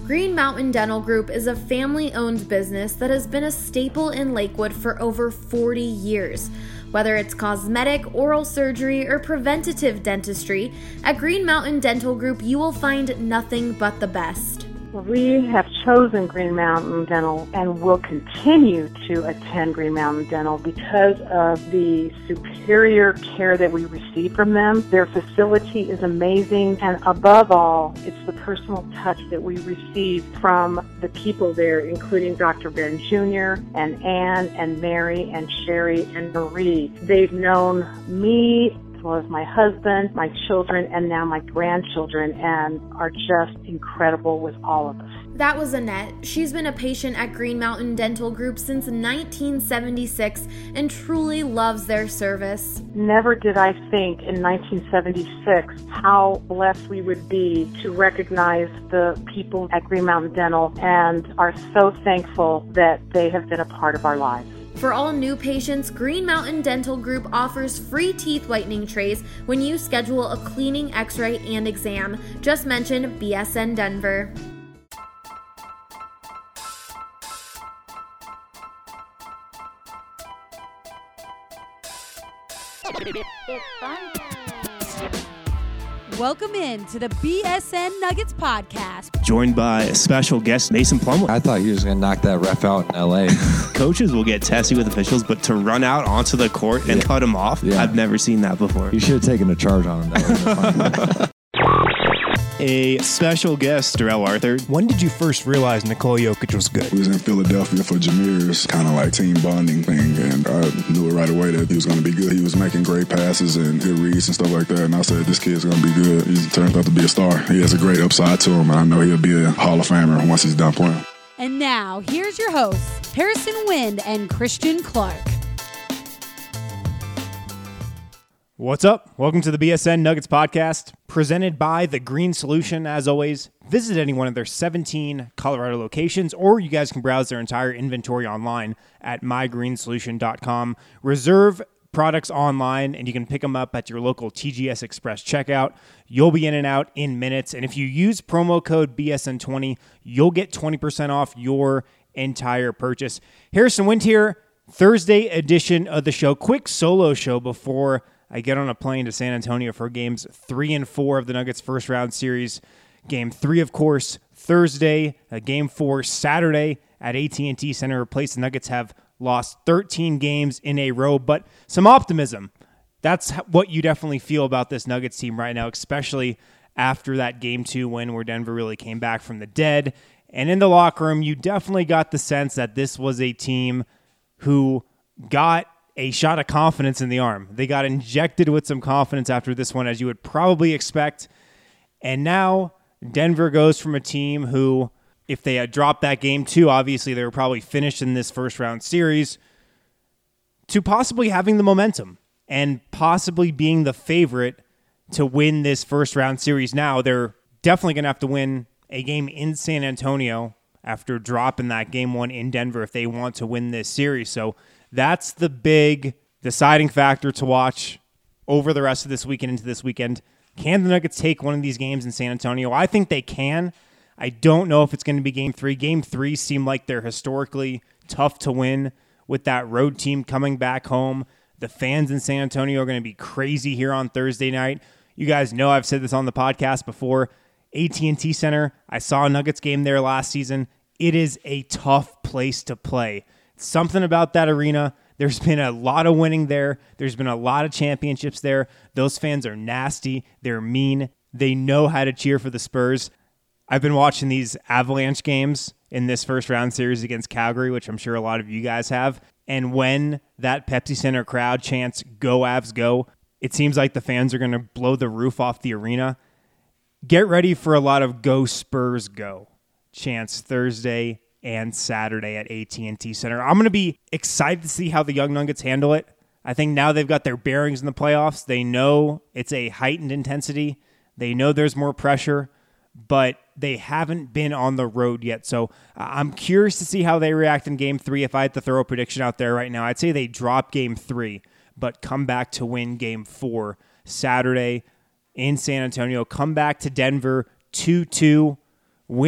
Green Mountain Dental Group is a family-owned business that has been a staple in Lakewood for over 40 years. Whether it's cosmetic, oral surgery, or preventative dentistry, at Green Mountain Dental Group you will find nothing but the best. We have chosen Green Mountain Dental and will continue to attend Green Mountain Dental because of the superior care that we receive from them. Their facility is amazing, and above all, it's the personal touch that we receive from the people there, including Dr. Ben Jr. and Ann and Mary and Sherry and Marie. They've known me as well as my husband, my children, and now my grandchildren, and are just incredible with all of us. That was Annette. She's been a patient at Green Mountain Dental Group since 1976 and truly loves their service. Never did I think in 1976 how blessed we would be to recognize the people at Green Mountain Dental, and are so thankful that they have been a part of our lives. For all new patients, Green Mountain Dental Group offers free teeth whitening trays when you schedule a cleaning, x-ray, and exam. Just mention BSN Denver. It's fun time. Welcome in to the BSN Nuggets podcast. Joined by a special guest, Mason Plumlee. I thought you was going to knock that ref out in L.A. Coaches will get testy with officials, but to run out onto the court and cut him off, I've never seen that before. You should have taken a charge on him. That would have been fun. A special guest, Darrell Arthur. When did you first realize Nikola Jokic was good? We was in Philadelphia for Jameer's kind of like team bonding thing, and I knew it right away that he was going to be good. He was making great passes and good reads and stuff like that, and I said, this kid's going to be good. He turns out to be a star. He has a great upside to him, and I know he'll be a Hall of Famer once he's done playing. And now, here's your hosts, Harrison Wind and Christian Clark. What's up? Welcome to the BSN Nuggets podcast, presented by The Green Solution. As always, visit any one of their 17 Colorado locations, or you guys can browse their entire inventory online at mygreensolution.com. Reserve products online, and you can pick them up at your local TGS Express checkout. You'll be in and out in minutes, and if you use promo code BSN20, you'll get 20% off your entire purchase. Harrison Wind here, Thursday edition of the show. Quick solo show before I get on a plane to San Antonio for games 3 and 4 of the Nuggets first round series. Game 3, of course, Thursday. Game 4, Saturday at AT&T Center. A place the Nuggets have lost 13 games in a row, but some optimism. That's what you definitely feel about this Nuggets team right now, especially after that Game 2 win where Denver really came back from the dead. And in the locker room, you definitely got the sense that this was a team who got a shot of confidence in the arm. They got injected with some confidence after this one, as you would probably expect. And now Denver goes from a team who, if they had dropped that Game 2, obviously they were probably finished in this first round series, to possibly having the momentum and possibly being the favorite to win this first round series. Now they're definitely going to have to win a game in San Antonio after dropping that Game 1 in Denver if they want to win this series. So that's the big deciding factor to watch over the rest of this weekend into this weekend. Can the Nuggets take one of these games in San Antonio? I think they can. I don't know if it's going to be Game 3. Game 3 seemed like they're historically tough to win with that road team coming back home. The fans in San Antonio are going to be crazy here on Thursday night. You guys know I've said this on the podcast before. AT&T Center, I saw a Nuggets game there last season. It is a tough place to play. Something about that arena. There's been a lot of winning there. There's been a lot of championships there. Those fans are nasty. They're mean. They know how to cheer for the Spurs. I've been watching these Avalanche games in this first round series against Calgary, which I'm sure a lot of you guys have. And when that Pepsi Center crowd chants, "Go Avs, go," it seems like the fans are going to blow the roof off the arena. Get ready for a lot of "Go Spurs, go" chants Thursday and Saturday at AT&T Center. I'm going to be excited to see how the Young Nuggets handle it. I think now they've got their bearings in the playoffs. They know it's a heightened intensity. They know there's more pressure, but they haven't been on the road yet. So I'm curious to see how they react in Game 3. If I had to throw a prediction out there right now, I'd say they drop Game 3, but come back to win Game 4 Saturday in San Antonio. Come back to Denver 2-2. Win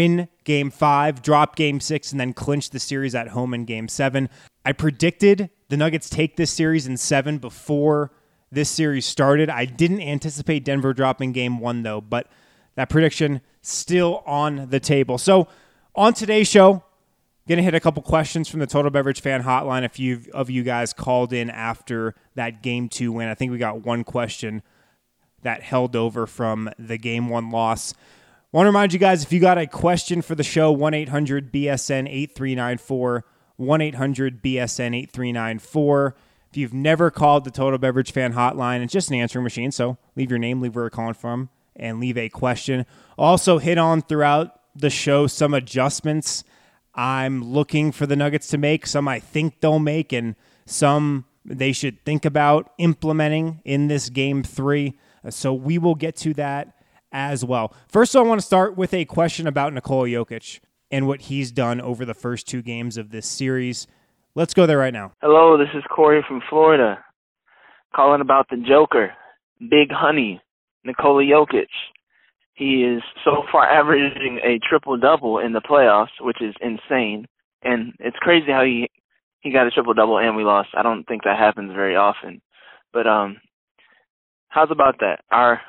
Game 5, drop Game 6, and then clinch the series at home in Game 7. I predicted the Nuggets take this series in 7 before this series started. I didn't anticipate Denver dropping Game 1, though, but that prediction still on the table. So on today's show, going to hit a couple questions from the Total Beverage Fan Hotline. A few of you guys called in after that Game 2 win. I think we got one question that held over from the Game 1 loss. Want to remind you guys, if you got a question for the show, 1-800-BSN-8394, 1-800-BSN-8394. If you've never called the Total Beverage Fan Hotline, it's just an answering machine, so leave your name, leave where you're calling from, and leave a question. Also hit on throughout the show some adjustments I'm looking for the Nuggets to make, some I think they'll make, and some they should think about implementing in this Game 3. So we will get to that as well. First, I want to start with a question about Nikola Jokic and what he's done over the first 2 games of this series. Let's go there right now. Hello, this is Corey from Florida, calling about the Joker, Big Honey, Nikola Jokic. He is so far averaging a triple-double in the playoffs, which is insane. And it's crazy how he got a triple-double and we lost. I don't think that happens very often. But how's about that? Our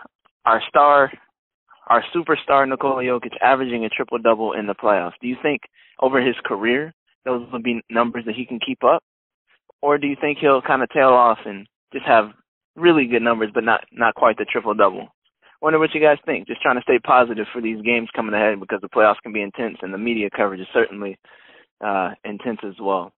superstar Nikola Jokic averaging a triple-double in the playoffs. Do you think over his career those will be numbers that he can keep up? Or do you think he'll kind of tail off and just have really good numbers but not quite the triple-double? Wonder what you guys think. Just trying to stay positive for these games coming ahead because the playoffs can be intense and the media coverage is certainly intense as well.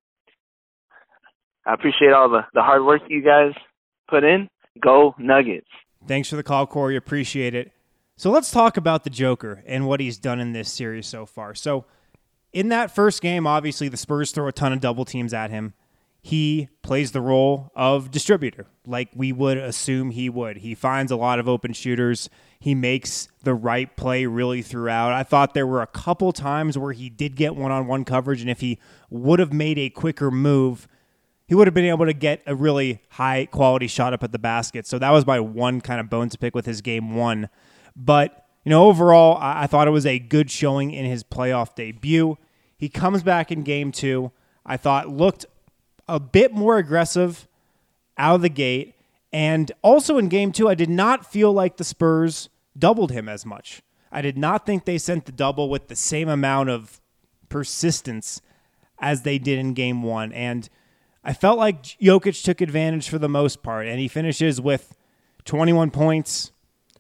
I appreciate all the hard work you guys put in. Go Nuggets. Thanks for the call, Corey. Appreciate it. So let's talk about the Joker and what he's done in this series so far. So in that first game, obviously the Spurs throw a ton of double teams at him. He plays the role of distributor, like we would assume he would. He finds a lot of open shooters. He makes the right play really throughout. I thought there were a couple times where he did get one-on-one coverage, and if he would have made a quicker move, he would have been able to get a really high-quality shot up at the basket. So that was my one kind of bone to pick with his Game 1. But, overall, I thought it was a good showing in his playoff debut. He comes back in Game 2. I thought looked a bit more aggressive out of the gate. And also in Game 2, I did not feel like the Spurs doubled him as much. I did not think they sent the double with the same amount of persistence as they did in Game 1. And I felt like Jokic took advantage for the most part. And he finishes with 21 points,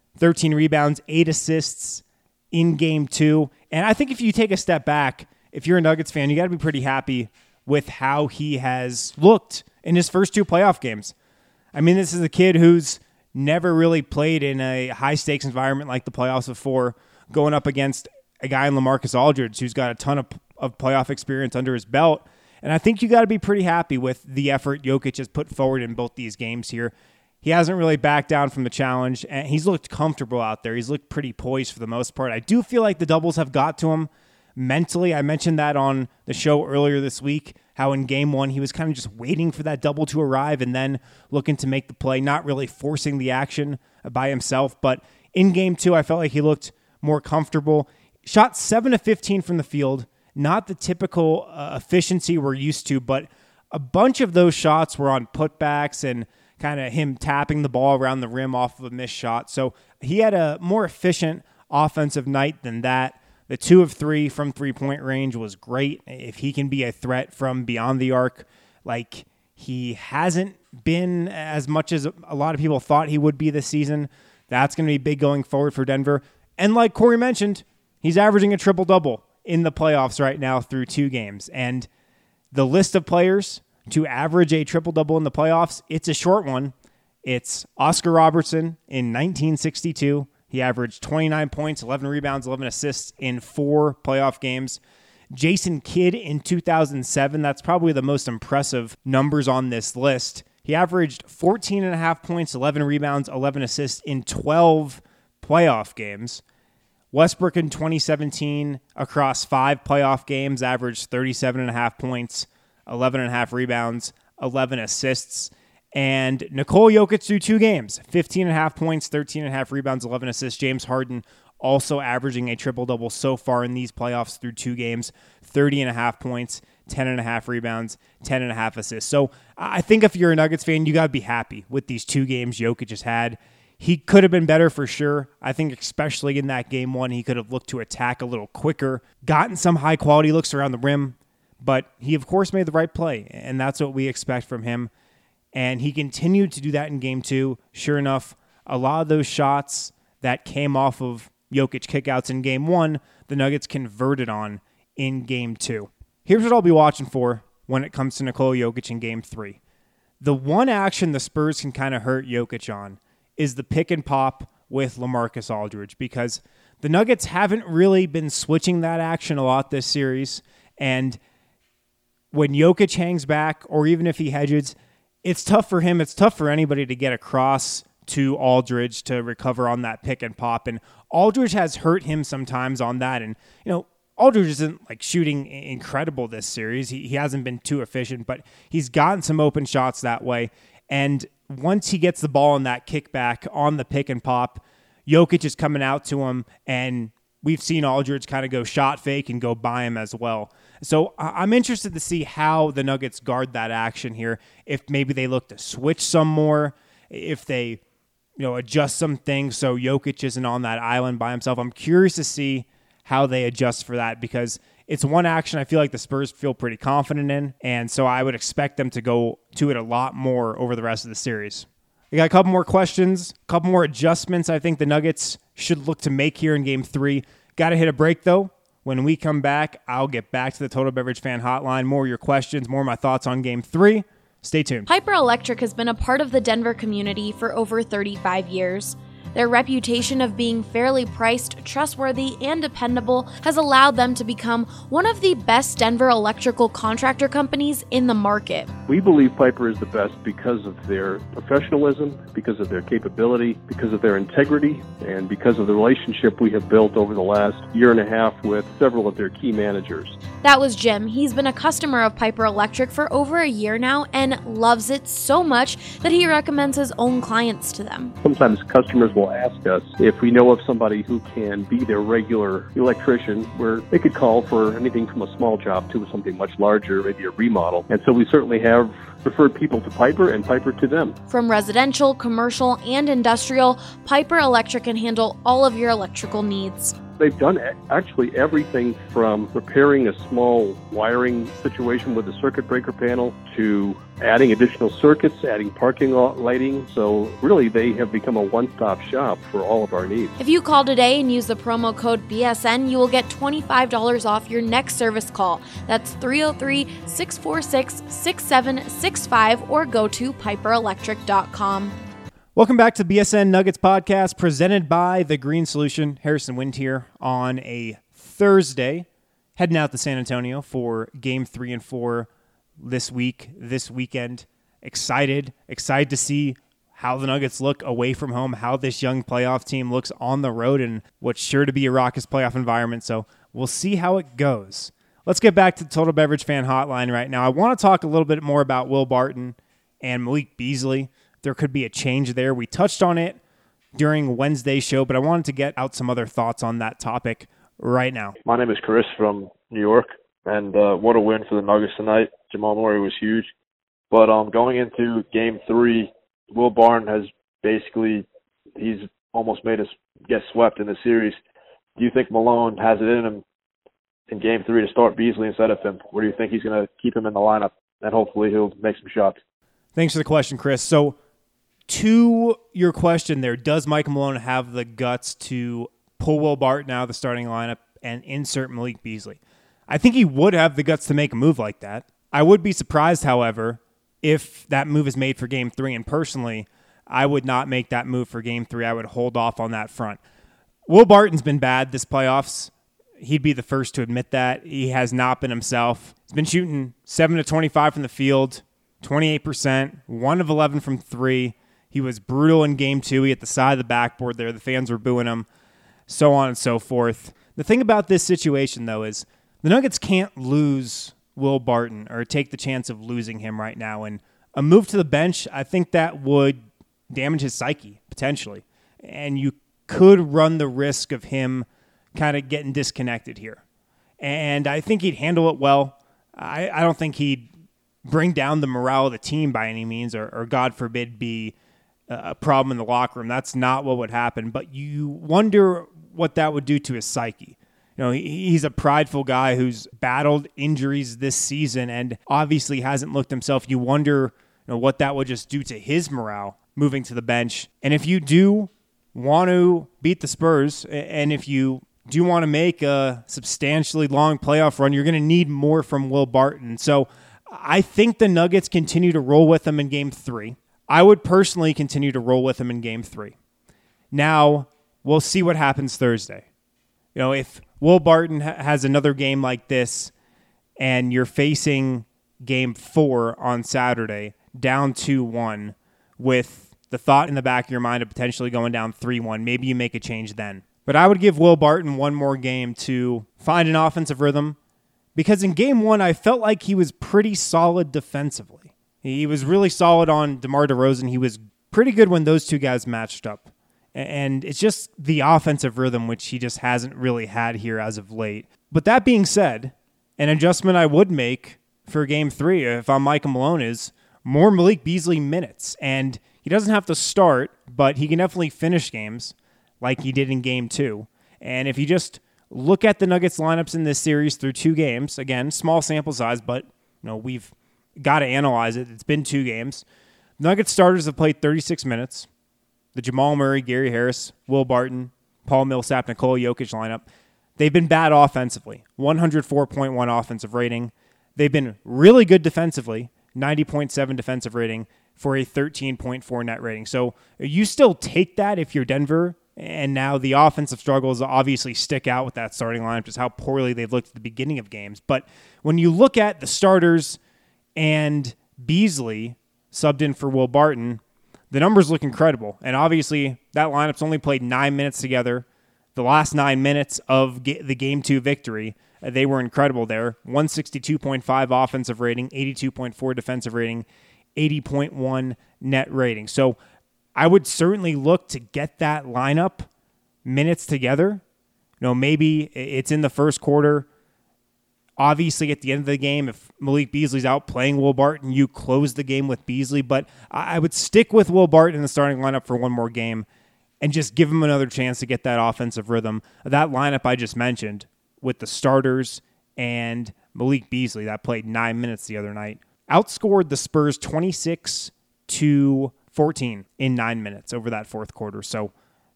13 rebounds, 8 assists in Game 2. And I think if you take a step back, if you're a Nuggets fan, you got to be pretty happy with how he has looked in his first 2 playoff games. I mean, this is a kid who's never really played in a high-stakes environment like the playoffs before, going up against a guy in LaMarcus Aldridge who's got a ton of playoff experience under his belt. And I think you got to be pretty happy with the effort Jokic has put forward in both these games here. He hasn't really backed down from the challenge, and he's looked comfortable out there. He's looked pretty poised for the most part. I do feel like the doubles have got to him mentally. I mentioned that on the show earlier this week, how in Game 1 he was kind of just waiting for that double to arrive and then looking to make the play, not really forcing the action by himself. But in Game 2, I felt like he looked more comfortable. Shot 7 of 15 from the field, not the typical efficiency we're used to, but a bunch of those shots were on putbacks and kind of him tapping the ball around the rim off of a missed shot. So he had a more efficient offensive night than that. The 2 of 3 from three-point range was great. If he can be a threat from beyond the arc, like he hasn't been as much as a lot of people thought he would be this season, that's going to be big going forward for Denver. And like Corey mentioned, he's averaging a triple-double in the playoffs right now through 2 games. And the list of players to average a triple-double in the playoffs, it's a short one. It's Oscar Robertson in 1962. He averaged 29 points, 11 rebounds, 11 assists in 4 playoff games. Jason Kidd in 2007, that's probably the most impressive numbers on this list. He averaged 14.5 points, 11 rebounds, 11 assists in 12 playoff games. Westbrook in 2017, across 5 playoff games, averaged 37.5 points, 11.5 rebounds, 11 assists. And Nikola Jokic through 2 games, 15.5 points, 13.5 rebounds, 11 assists. James Harden also averaging a triple-double so far in these playoffs through 2 games, 30.5 points, 10.5 rebounds, 10.5 assists. So I think if you're a Nuggets fan, you got to be happy with these 2 games Jokic has had. He could have been better for sure. I think especially in that game 1, he could have looked to attack a little quicker, gotten some high-quality looks around the rim, but he, of course, made the right play, and that's what we expect from him. And he continued to do that in game 2. Sure enough, a lot of those shots that came off of Jokic kickouts in game 1, the Nuggets converted on in game 2. Here's what I'll be watching for when it comes to Nikola Jokic in game 3. The one action the Spurs can kind of hurt Jokic on is the pick and pop with LaMarcus Aldridge, because the Nuggets haven't really been switching that action a lot this series. And when Jokic hangs back, or even if he hedges, it's tough for him. It's tough for anybody to get across to Aldridge to recover on that pick and pop. And Aldridge has hurt him sometimes on that. And, Aldridge isn't like shooting incredible this series. He hasn't been too efficient, but he's gotten some open shots that way. And once he gets the ball in that kickback on the pick and pop, Jokic is coming out to him, and we've seen Aldridge kind of go shot fake and go by him as well. So I'm interested to see how the Nuggets guard that action here, if maybe they look to switch some more, if they adjust some things so Jokic isn't on that island by himself. I'm curious to see how they adjust for that, because it's one action I feel like the Spurs feel pretty confident in, and so I would expect them to go to it a lot more over the rest of the series. We got a couple more questions, a couple more adjustments I think the Nuggets should look to make here in Game 3. Got to hit a break, though. When we come back, I'll get back to the Total Beverage Fan Hotline, more of your questions, more of my thoughts on Game 3. Stay tuned. Piper Electric has been a part of the Denver community for over 35 years. Their reputation of being fairly priced, trustworthy, and dependable has allowed them to become one of the best Denver electrical contractor companies in the market. We believe Piper is the best because of their professionalism, because of their capability, because of their integrity, and because of the relationship we have built over the last year and a half with several of their key managers. That was Jim. He's been a customer of Piper Electric for over a year now and loves it so much that he recommends his own clients to them. Sometimes customers will ask us if we know of somebody who can be their regular electrician, where they could call for anything from a small job to something much larger, maybe a remodel. And so we certainly have referred people to Piper and Piper to them. From residential, commercial, and industrial, Piper Electric can handle all of your electrical needs. They've done actually everything from repairing a small wiring situation with a circuit breaker panel to adding additional circuits, adding parking lot lighting. So really, they have become a one-stop shop for all of our needs. If you call today and use the promo code BSN, you will get $25 off your next service call. That's 303-646-6765 or go to piperelectric.com. Welcome back to BSN Nuggets Podcast, presented by The Green Solution. Harrison Wind here on a Thursday, heading out to San Antonio for Game 3 and 4 this weekend. Excited to see how the Nuggets look away from home, how this young playoff team looks on the road, and what's sure to be a raucous playoff environment. So we'll see how it goes. Let's get back to the Total Beverage Fan Hotline right now. I want to talk a little bit more about Will Barton and Malik Beasley. There could be a change there. We touched on it during Wednesday's show, but I wanted to get out some other thoughts on that topic right now. My name is Chris from New York, and what a win for the Nuggets tonight. Jamal Murray was huge. But going into Game 3, Will Barton has he's almost made us get swept in the series. Do you think Malone has it in him in Game 3 to start Beasley instead of him? Or do you think he's going to keep him in the lineup and hopefully he'll make some shots? Thanks for the question, Chris. So, to your question there, does Mike Malone have the guts to pull Will Barton out of the starting lineup and insert Malik Beasley? I think he would have the guts to make a move like that. I would be surprised, however, if that move is made for Game 3, and personally, I would not make that move for Game 3. I would hold off on that front. Will Barton's been bad this playoffs. He'd be the first to admit that. He has not been himself. He's been shooting 7 to 25 from the field, 28%, 1 of 11 from 3. He was brutal in Game 2. He hit the side of the backboard there. The fans were booing him, so on and so forth. The thing about this situation, though, is the Nuggets can't lose Will Barton or take the chance of losing him right now. And a move to the bench, I think that would damage his psyche, potentially. And you could run the risk of him kind of getting disconnected here. And I think he'd handle it well. I don't think he'd bring down the morale of the team by any means, or God forbid, be a problem in the locker room. That's not what would happen. But you wonder what that would do to his psyche. You know, he's a prideful guy who's battled injuries this season and obviously hasn't looked himself. You wonder, what that would just do to his morale moving to the bench. And if you do want to beat the Spurs, and if you do want to make a substantially long playoff run, you're going to need more from Will Barton. So I think the Nuggets continue to roll with him in Game 3. I would personally continue to roll with him in Game 3. Now, we'll see what happens Thursday. If Will Barton has another game like this and you're facing Game 4 on Saturday, down 2-1, with the thought in the back of your mind of potentially going down 3-1, maybe you make a change then. But I would give Will Barton one more game to find an offensive rhythm, because in Game 1, I felt like he was pretty solid defensively. He was really solid on DeMar DeRozan. He was pretty good when those two guys matched up. And it's just the offensive rhythm, which he just hasn't really had here as of late. But that being said, an adjustment I would make for Game 3, if I'm Michael Malone, is more Malik Beasley minutes. And he doesn't have to start, but he can definitely finish games like he did in Game 2. And if you just look at the Nuggets lineups in this series through 2 games, again, small sample size, but we've got to analyze it. It's been 2 games. Nuggets starters have played 36 minutes. The Jamal Murray, Gary Harris, Will Barton, Paul Millsap, Nikola Jokic lineup, they've been bad offensively. 104.1 offensive rating. They've been really good defensively. 90.7 defensive rating for a 13.4 net rating. So you still take that if you're Denver. And now the offensive struggles obviously stick out with that starting lineup, just how poorly they've looked at the beginning of games. But when you look at the starters and Beasley subbed in for Will Barton, the numbers look incredible. And obviously that lineup's only played 9 minutes together. The last 9 minutes of the Game 2 victory, they were incredible there. 162.5 offensive rating, 82.4 defensive rating, 80.1 net rating. So I would certainly look to get that lineup minutes together. Maybe it's in the first quarter. Obviously, at the end of the game, if Malik Beasley's out playing Will Barton, you close the game with Beasley. But I would stick with Will Barton in the starting lineup for one more game and just give him another chance to get that offensive rhythm. That lineup I just mentioned with the starters and Malik Beasley that played 9 minutes the other night outscored the Spurs 26-14 in 9 minutes over that fourth quarter. So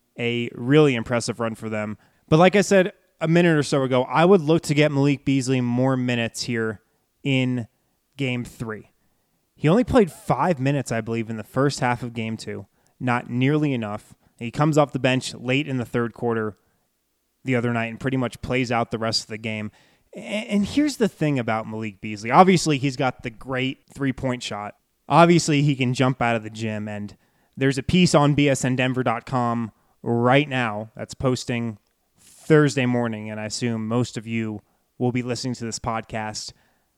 a really impressive run for them. But like I said a minute or so ago, I would look to get Malik Beasley more minutes here in Game 3. He only played 5 minutes, I believe, in the first half of Game 2. Not nearly enough. He comes off the bench late in the third quarter the other night and pretty much plays out the rest of the game. And here's the thing about Malik Beasley. Obviously, he's got the great three-point shot. Obviously, he can jump out of the gym. And there's a piece on bsndenver.com right now that's posting Thursday morning, and I assume most of you will be listening to this podcast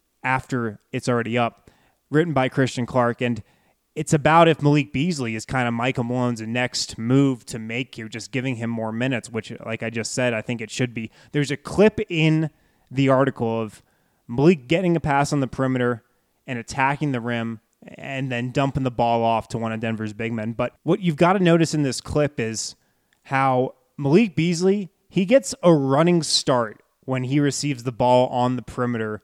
after it's already up, written by Christian Clark. And it's about if Malik Beasley is kind of Michael Malone's next move to make here, just giving him more minutes, which, like I just said, I think it should be. There's a clip in the article of Malik getting a pass on the perimeter and attacking the rim and then dumping the ball off to one of Denver's big men. But what you've got to notice in this clip is how Malik Beasley, he gets a running start when he receives the ball on the perimeter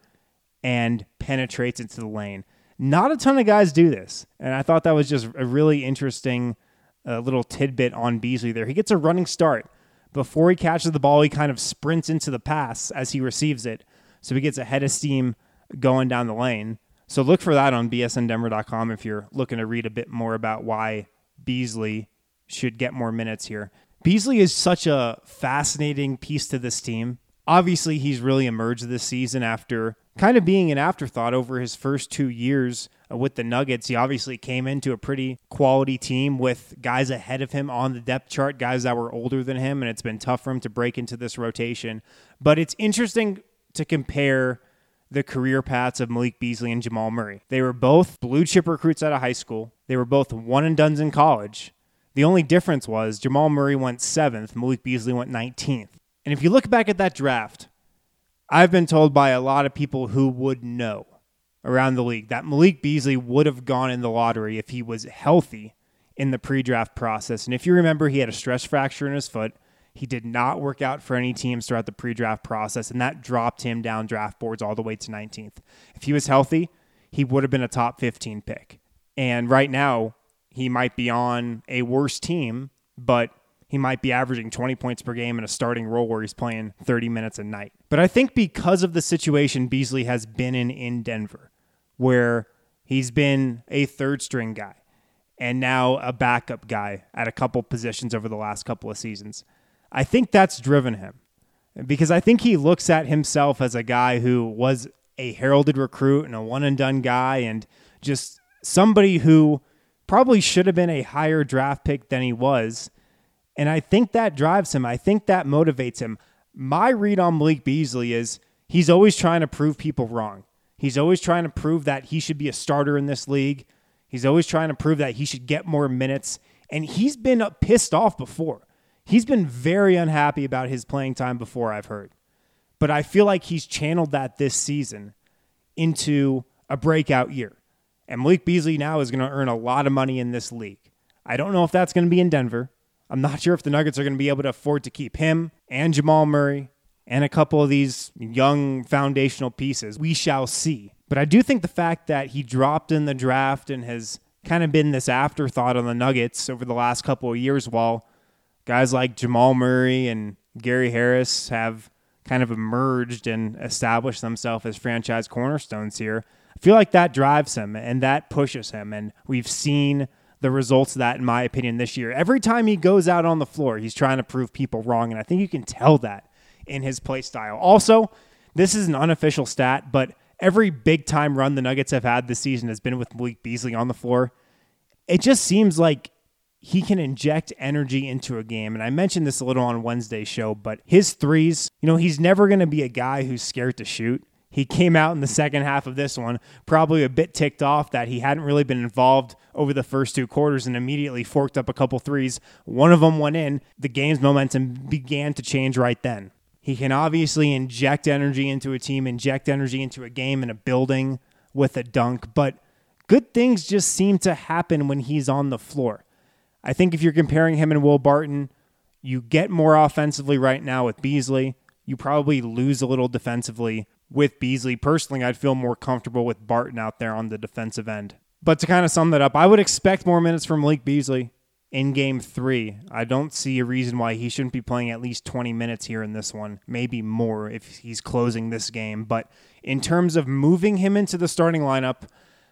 and penetrates into the lane. Not a ton of guys do this, and I thought that was just a really interesting little tidbit on Beasley there. He gets a running start. Before he catches the ball, he kind of sprints into the pass as he receives it, so he gets a head of steam going down the lane. So look for that on bsndenver.com if you're looking to read a bit more about why Beasley should get more minutes here. Beasley is such a fascinating piece to this team. Obviously, he's really emerged this season after kind of being an afterthought over his first 2 years with the Nuggets. He obviously came into a pretty quality team with guys ahead of him on the depth chart, guys that were older than him, and it's been tough for him to break into this rotation. But it's interesting to compare the career paths of Malik Beasley and Jamal Murray. They were both blue chip recruits out of high school. They were both one and dones in college. The only difference was Jamal Murray went 7th, Malik Beasley went 19th. And if you look back at that draft, I've been told by a lot of people who would know around the league that Malik Beasley would have gone in the lottery if he was healthy in the pre-draft process. And if you remember, he had a stress fracture in his foot. He did not work out for any teams throughout the pre-draft process, and that dropped him down draft boards all the way to 19th. If he was healthy, he would have been a top 15 pick. And right now, he might be on a worse team, but he might be averaging 20 points per game in a starting role where he's playing 30 minutes a night. But I think because of the situation Beasley has been in Denver, where he's been a third-string guy and now a backup guy at a couple positions over the last couple of seasons, I think that's driven him. Because I think he looks at himself as a guy who was a heralded recruit and a one-and-done guy and just somebody who probably should have been a higher draft pick than he was. And I think that drives him. I think that motivates him. My read on Malik Beasley is he's always trying to prove people wrong. He's always trying to prove that he should be a starter in this league. He's always trying to prove that he should get more minutes. And he's been pissed off before. He's been very unhappy about his playing time before, I've heard. But I feel like he's channeled that this season into a breakout year. And Malik Beasley now is going to earn a lot of money in this league. I don't know if that's going to be in Denver. I'm not sure if the Nuggets are going to be able to afford to keep him and Jamal Murray and a couple of these young foundational pieces. We shall see. But I do think the fact that he dropped in the draft and has kind of been this afterthought on the Nuggets over the last couple of years while guys like Jamal Murray and Gary Harris have kind of emerged and established themselves as franchise cornerstones here. I feel like that drives him and that pushes him. And we've seen the results of that, in my opinion, this year. Every time he goes out on the floor, he's trying to prove people wrong. And I think you can tell that in his play style. Also, this is an unofficial stat, but every big-time run the Nuggets have had this season has been with Malik Beasley on the floor. It just seems like he can inject energy into a game. And I mentioned this a little on Wednesday's show, but his threes, he's never going to be a guy who's scared to shoot. He came out in the second half of this one, probably a bit ticked off that he hadn't really been involved over the first two quarters and immediately forked up a couple threes. One of them went in. The game's momentum began to change right then. He can obviously inject energy into a team, inject energy into a game and a building with a dunk, but good things just seem to happen when he's on the floor. I think if you're comparing him and Will Barton, you get more offensively right now with Beasley. You probably lose a little defensively with Beasley. Personally, I'd feel more comfortable with Barton out there on the defensive end. But to kind of sum that up, I would expect more minutes from Malik Beasley in Game 3. I don't see a reason why he shouldn't be playing at least 20 minutes here in this one, maybe more if he's closing this game. But in terms of moving him into the starting lineup,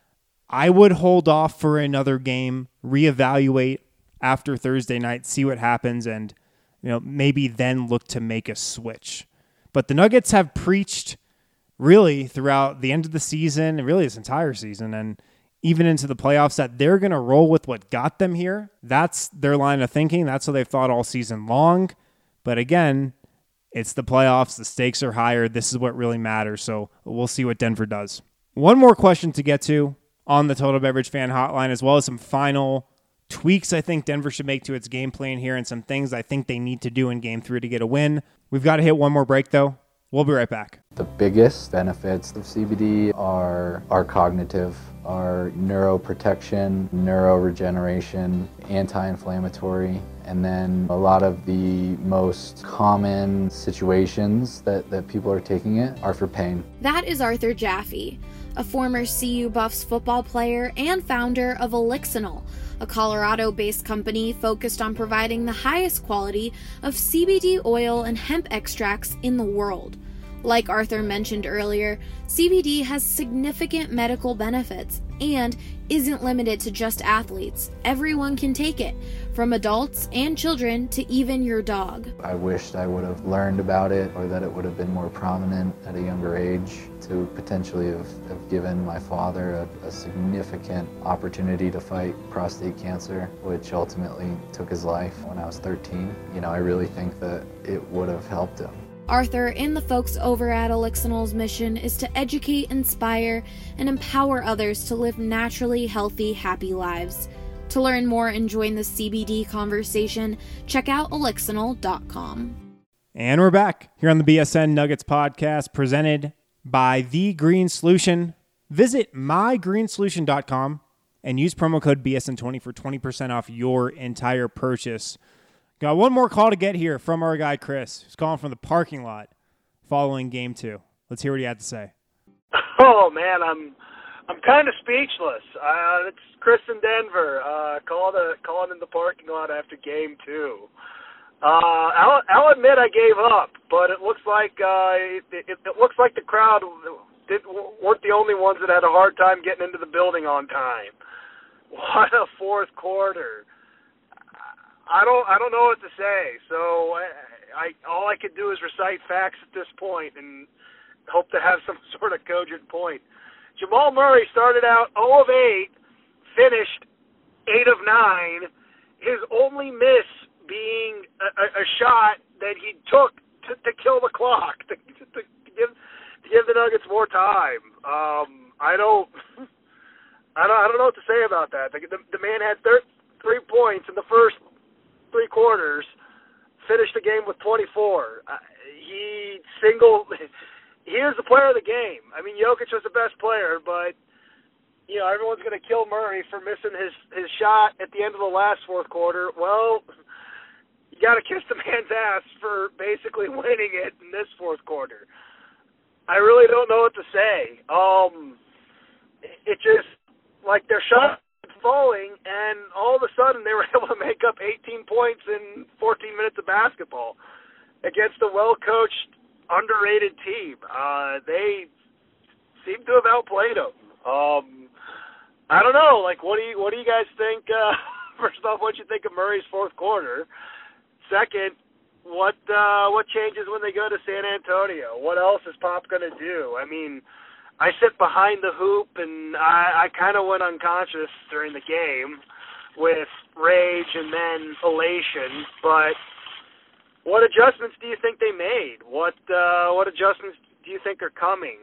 I would hold off for another game, reevaluate after Thursday night, see what happens, and maybe then look to make a switch. But the Nuggets have preached really throughout the end of the season, and really this entire season, and even into the playoffs, that they're going to roll with what got them here. That's their line of thinking. That's what they've thought all season long. But again, it's the playoffs. The stakes are higher. This is what really matters. So we'll see what Denver does. One more question to get to on the Total Beverage Fan Hotline, as well as some final tweaks I think Denver should make to its game plan here and some things I think they need to do in Game 3 to get a win. We've got to hit one more break, though. We'll be right back. The biggest benefits of CBD are cognitive, are neuroprotection, neuroregeneration, anti-inflammatory, and then a lot of the most common situations that people are taking it are for pain. That is Arthur Jaffe, a former CU Buffs football player and founder of Elixinol, a Colorado-based company focused on providing the highest quality of CBD oil and hemp extracts in the world. Like Arthur mentioned earlier, CBD has significant medical benefits and isn't limited to just athletes. Everyone can take it, from adults and children to even your dog. I wished I would have learned about it, or that it would have been more prominent at a younger age to potentially have given my father a significant opportunity to fight prostate cancer, which ultimately took his life when I was 13. I really think that it would have helped him. Arthur and the folks over at Elixinol's mission is to educate, inspire, and empower others to live naturally healthy, happy lives. To learn more and join the CBD conversation, check out elixinol.com. And we're back here on the BSN Nuggets podcast presented by The Green Solution. Visit mygreensolution.com and use promo code BSN20 for 20% off your entire purchase. Got one more call to get here from our guy Chris, who's calling from the parking lot following Game 2. Let's hear what he had to say. Oh man, I'm kind of speechless. It's Chris in Denver, calling in the parking lot after Game 2. I'll admit I gave up, but it looks like it looks like the crowd weren't the only ones that had a hard time getting into the building on time. What a fourth quarter! I don't know what to say. So all I could do is recite facts at this point and hope to have some sort of cogent point. Jamal Murray started out 0 of 8, finished 8 of 9. His only miss being a shot that he took to kill the clock, to give the Nuggets more time. I don't know what to say about that. The man had 3 points in the first 3 quarters, finished the game with 24. He is the player of the game. I mean, Jokic was the best player, but everyone's going to kill Murray for missing his shot at the end of the last fourth quarter. Well, you got to kiss the man's ass for basically winning it in this fourth quarter. I really don't know what to say. It just, like, their shot was falling, and all of a sudden they were able to make up 18 points in 14 minutes of basketball against a well-coached, underrated team. They seem to have outplayed them. I don't know. Like, what do you guys think? First off, what you think of Murray's fourth quarter? Second, what changes when they go to San Antonio? What else is Pop going to do? I mean, I sit behind the hoop, and I kind of went unconscious during the game with rage and then elation. But what adjustments do you think they made? What adjustments do you think are coming?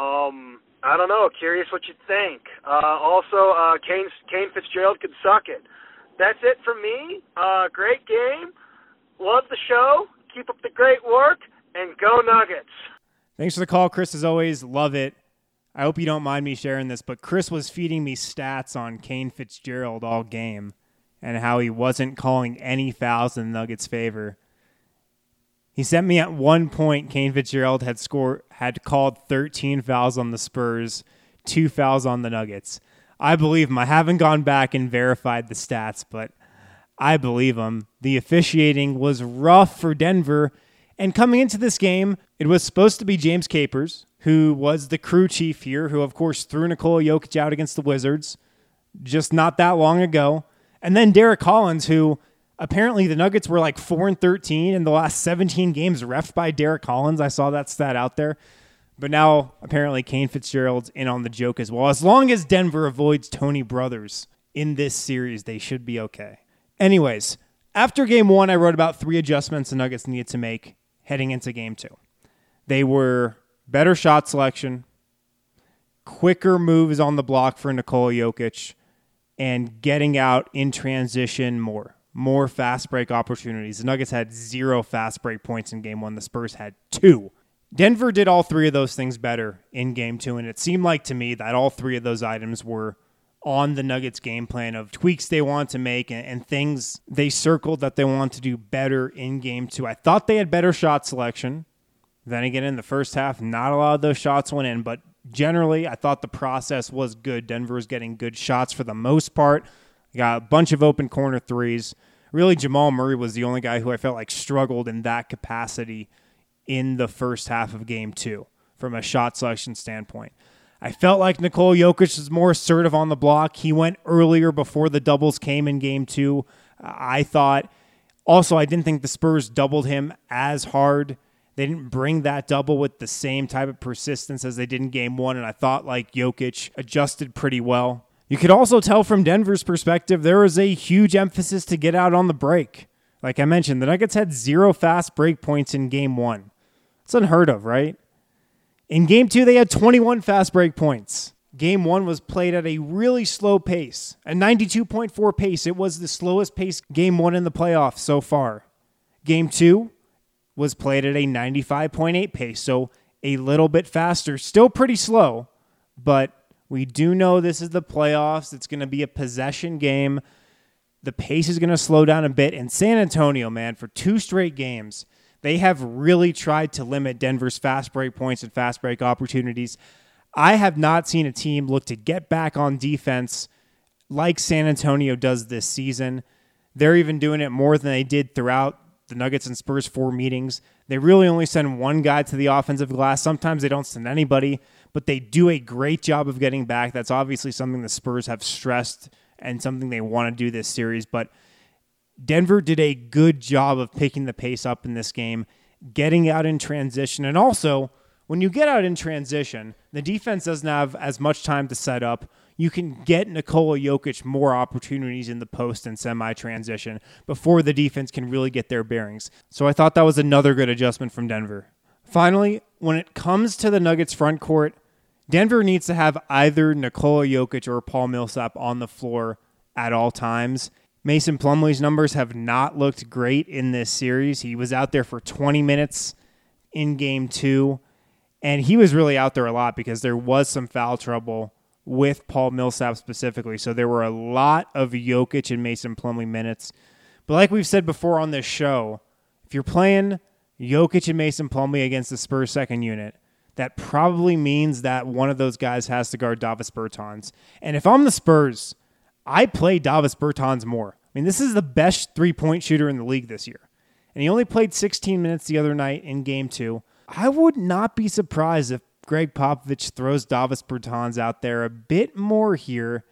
I don't know. Curious what you think. Also, Kane Fitzgerald could suck it. That's it for me. Great game. Love the show. Keep up the great work, and go Nuggets. Thanks for the call, Chris, as always. Love it. I hope you don't mind me sharing this, but Chris was feeding me stats on Kane Fitzgerald all game and how he wasn't calling any fouls in the Nuggets' favor. He sent me at one point Kane Fitzgerald had called 13 fouls on the Spurs, 2 fouls on the Nuggets. I believe him. I haven't gone back and verified the stats, but I believe him. The officiating was rough for Denver, and coming into this game, it was supposed to be James Capers, who was the crew chief here, who of course threw Nikola Jokic out against the Wizards just not that long ago, and then Derek Collins, who apparently the Nuggets were like 4-13 in the last 17 games reffed by Derek Collins. I saw that stat out there. But now apparently Kane Fitzgerald's in on the joke as well. As long as Denver avoids Tony Brothers in this series, they should be okay. Anyways, after Game 1, I wrote about 3 adjustments the Nuggets needed to make heading into Game 2. They were better shot selection, quicker moves on the block for Nikola Jokic, and getting out in transition more fast break opportunities. The Nuggets had 0 fast break points in Game 1. The Spurs had 2. Denver did all 3 of those things better in Game 2, and it seemed like to me that all 3 of those items were on the Nuggets game plan of tweaks they want to make and things they circled that they want to do better in Game 2. I thought they had better shot selection. Then again, in the first half, not a lot of those shots went in, but generally, I thought the process was good. Denver was getting good shots for the most part. Got a bunch of open corner threes. Really, Jamal Murray was the only guy who I felt like struggled in that capacity in the first half of Game 2 from a shot selection standpoint. I felt like Nikola Jokic was more assertive on the block. He went earlier before the doubles came in Game 2. I thought. Also, I didn't think the Spurs doubled him as hard. They didn't bring that double with the same type of persistence as they did in Game 1, and I thought like Jokic adjusted pretty well. You could also tell from Denver's perspective, there was a huge emphasis to get out on the break. Like I mentioned, the Nuggets had 0 fast break points in Game 1. It's unheard of, right? In Game 2, they had 21 fast break points. Game 1 was played at a really slow pace, a 92.4 pace. It was the slowest pace Game 1 in the playoffs so far. Game 2 was played at a 95.8 pace, so a little bit faster. Still pretty slow, but we do know this is the playoffs. It's going to be a possession game. The pace is going to slow down a bit. And San Antonio, man, for 2 straight games, they have really tried to limit Denver's fast break points and fast break opportunities. I have not seen a team look to get back on defense like San Antonio does this season. They're even doing it more than they did throughout the Nuggets and Spurs 4 meetings. They really only send one guy to the offensive glass. Sometimes they don't send anybody, but they do a great job of getting back. That's obviously something the Spurs have stressed and something they want to do this series. But Denver did a good job of picking the pace up in this game, getting out in transition, and also when you get out in transition, the defense doesn't have as much time to set up. You can get Nikola Jokic more opportunities in the post and semi-transition before the defense can really get their bearings. So I thought that was another good adjustment from Denver. Finally, when it comes to the Nuggets front court, Denver needs to have either Nikola Jokic or Paul Millsap on the floor at all times. Mason Plumlee's numbers have not looked great in this series. He was out there for 20 minutes in Game 2. And he was really out there a lot because there was some foul trouble with Paul Millsap specifically. So there were a lot of Jokic and Mason Plumlee minutes. But like we've said before on this show, if you're playing Jokic and Mason Plumlee against the Spurs second unit, that probably means that one of those guys has to guard Davis Bertans. And if I'm the Spurs, I play Davis Bertans more. I mean, this is the best three-point shooter in the league this year. And he only played 16 minutes the other night in Game 2. I would not be surprised if Greg Popovich throws Davis Bertans out there a bit more here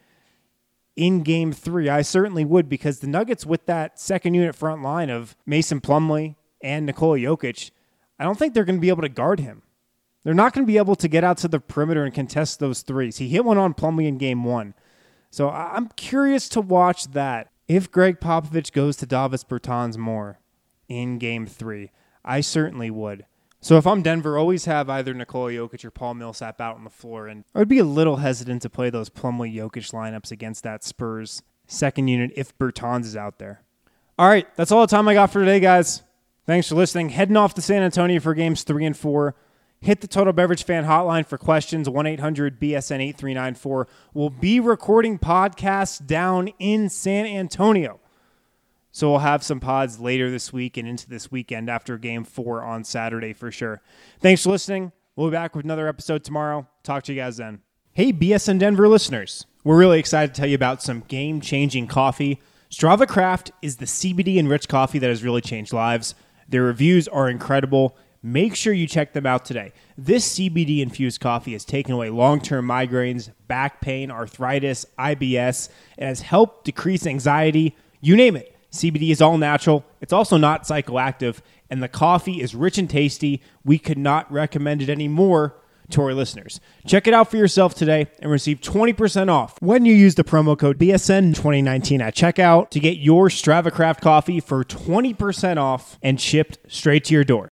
in Game 3. I certainly would, because the Nuggets with that second unit front line of Mason Plumlee and Nikola Jokic, I don't think they're going to be able to guard him. They're not going to be able to get out to the perimeter and contest those threes. He hit one on Plumlee in Game 1. So I'm curious to watch that. If Greg Popovich goes to Davis Bertans more in Game 3, I certainly would. So if I'm Denver, always have either Nikola Jokic or Paul Millsap out on the floor. And I would be a little hesitant to play those Plumlee-Jokic lineups against that Spurs second unit if Bertans is out there. All right, that's all the time I got for today, guys. Thanks for listening. Heading off to San Antonio for Games 3 and 4. Hit the Total Beverage Fan Hotline for questions, 1-800-BSN-8394. We'll be recording podcasts down in San Antonio. So we'll have some pods later this week and into this weekend after Game 4 on Saturday for sure. Thanks for listening. We'll be back with another episode tomorrow. Talk to you guys then. Hey, BSN Denver listeners. We're really excited to tell you about some game-changing coffee. Strava Craft is the CBD-enriched coffee that has really changed lives. Their reviews are incredible. Make sure you check them out today. This CBD-infused coffee has taken away long-term migraines, back pain, arthritis, IBS. It has helped decrease anxiety. You name it. CBD is all natural. It's also not psychoactive, and the coffee is rich and tasty. We could not recommend it any more to our listeners. Check it out for yourself today and receive 20% off when you use the promo code BSN2019 at checkout to get your Strava Craft coffee for 20% off and shipped straight to your door.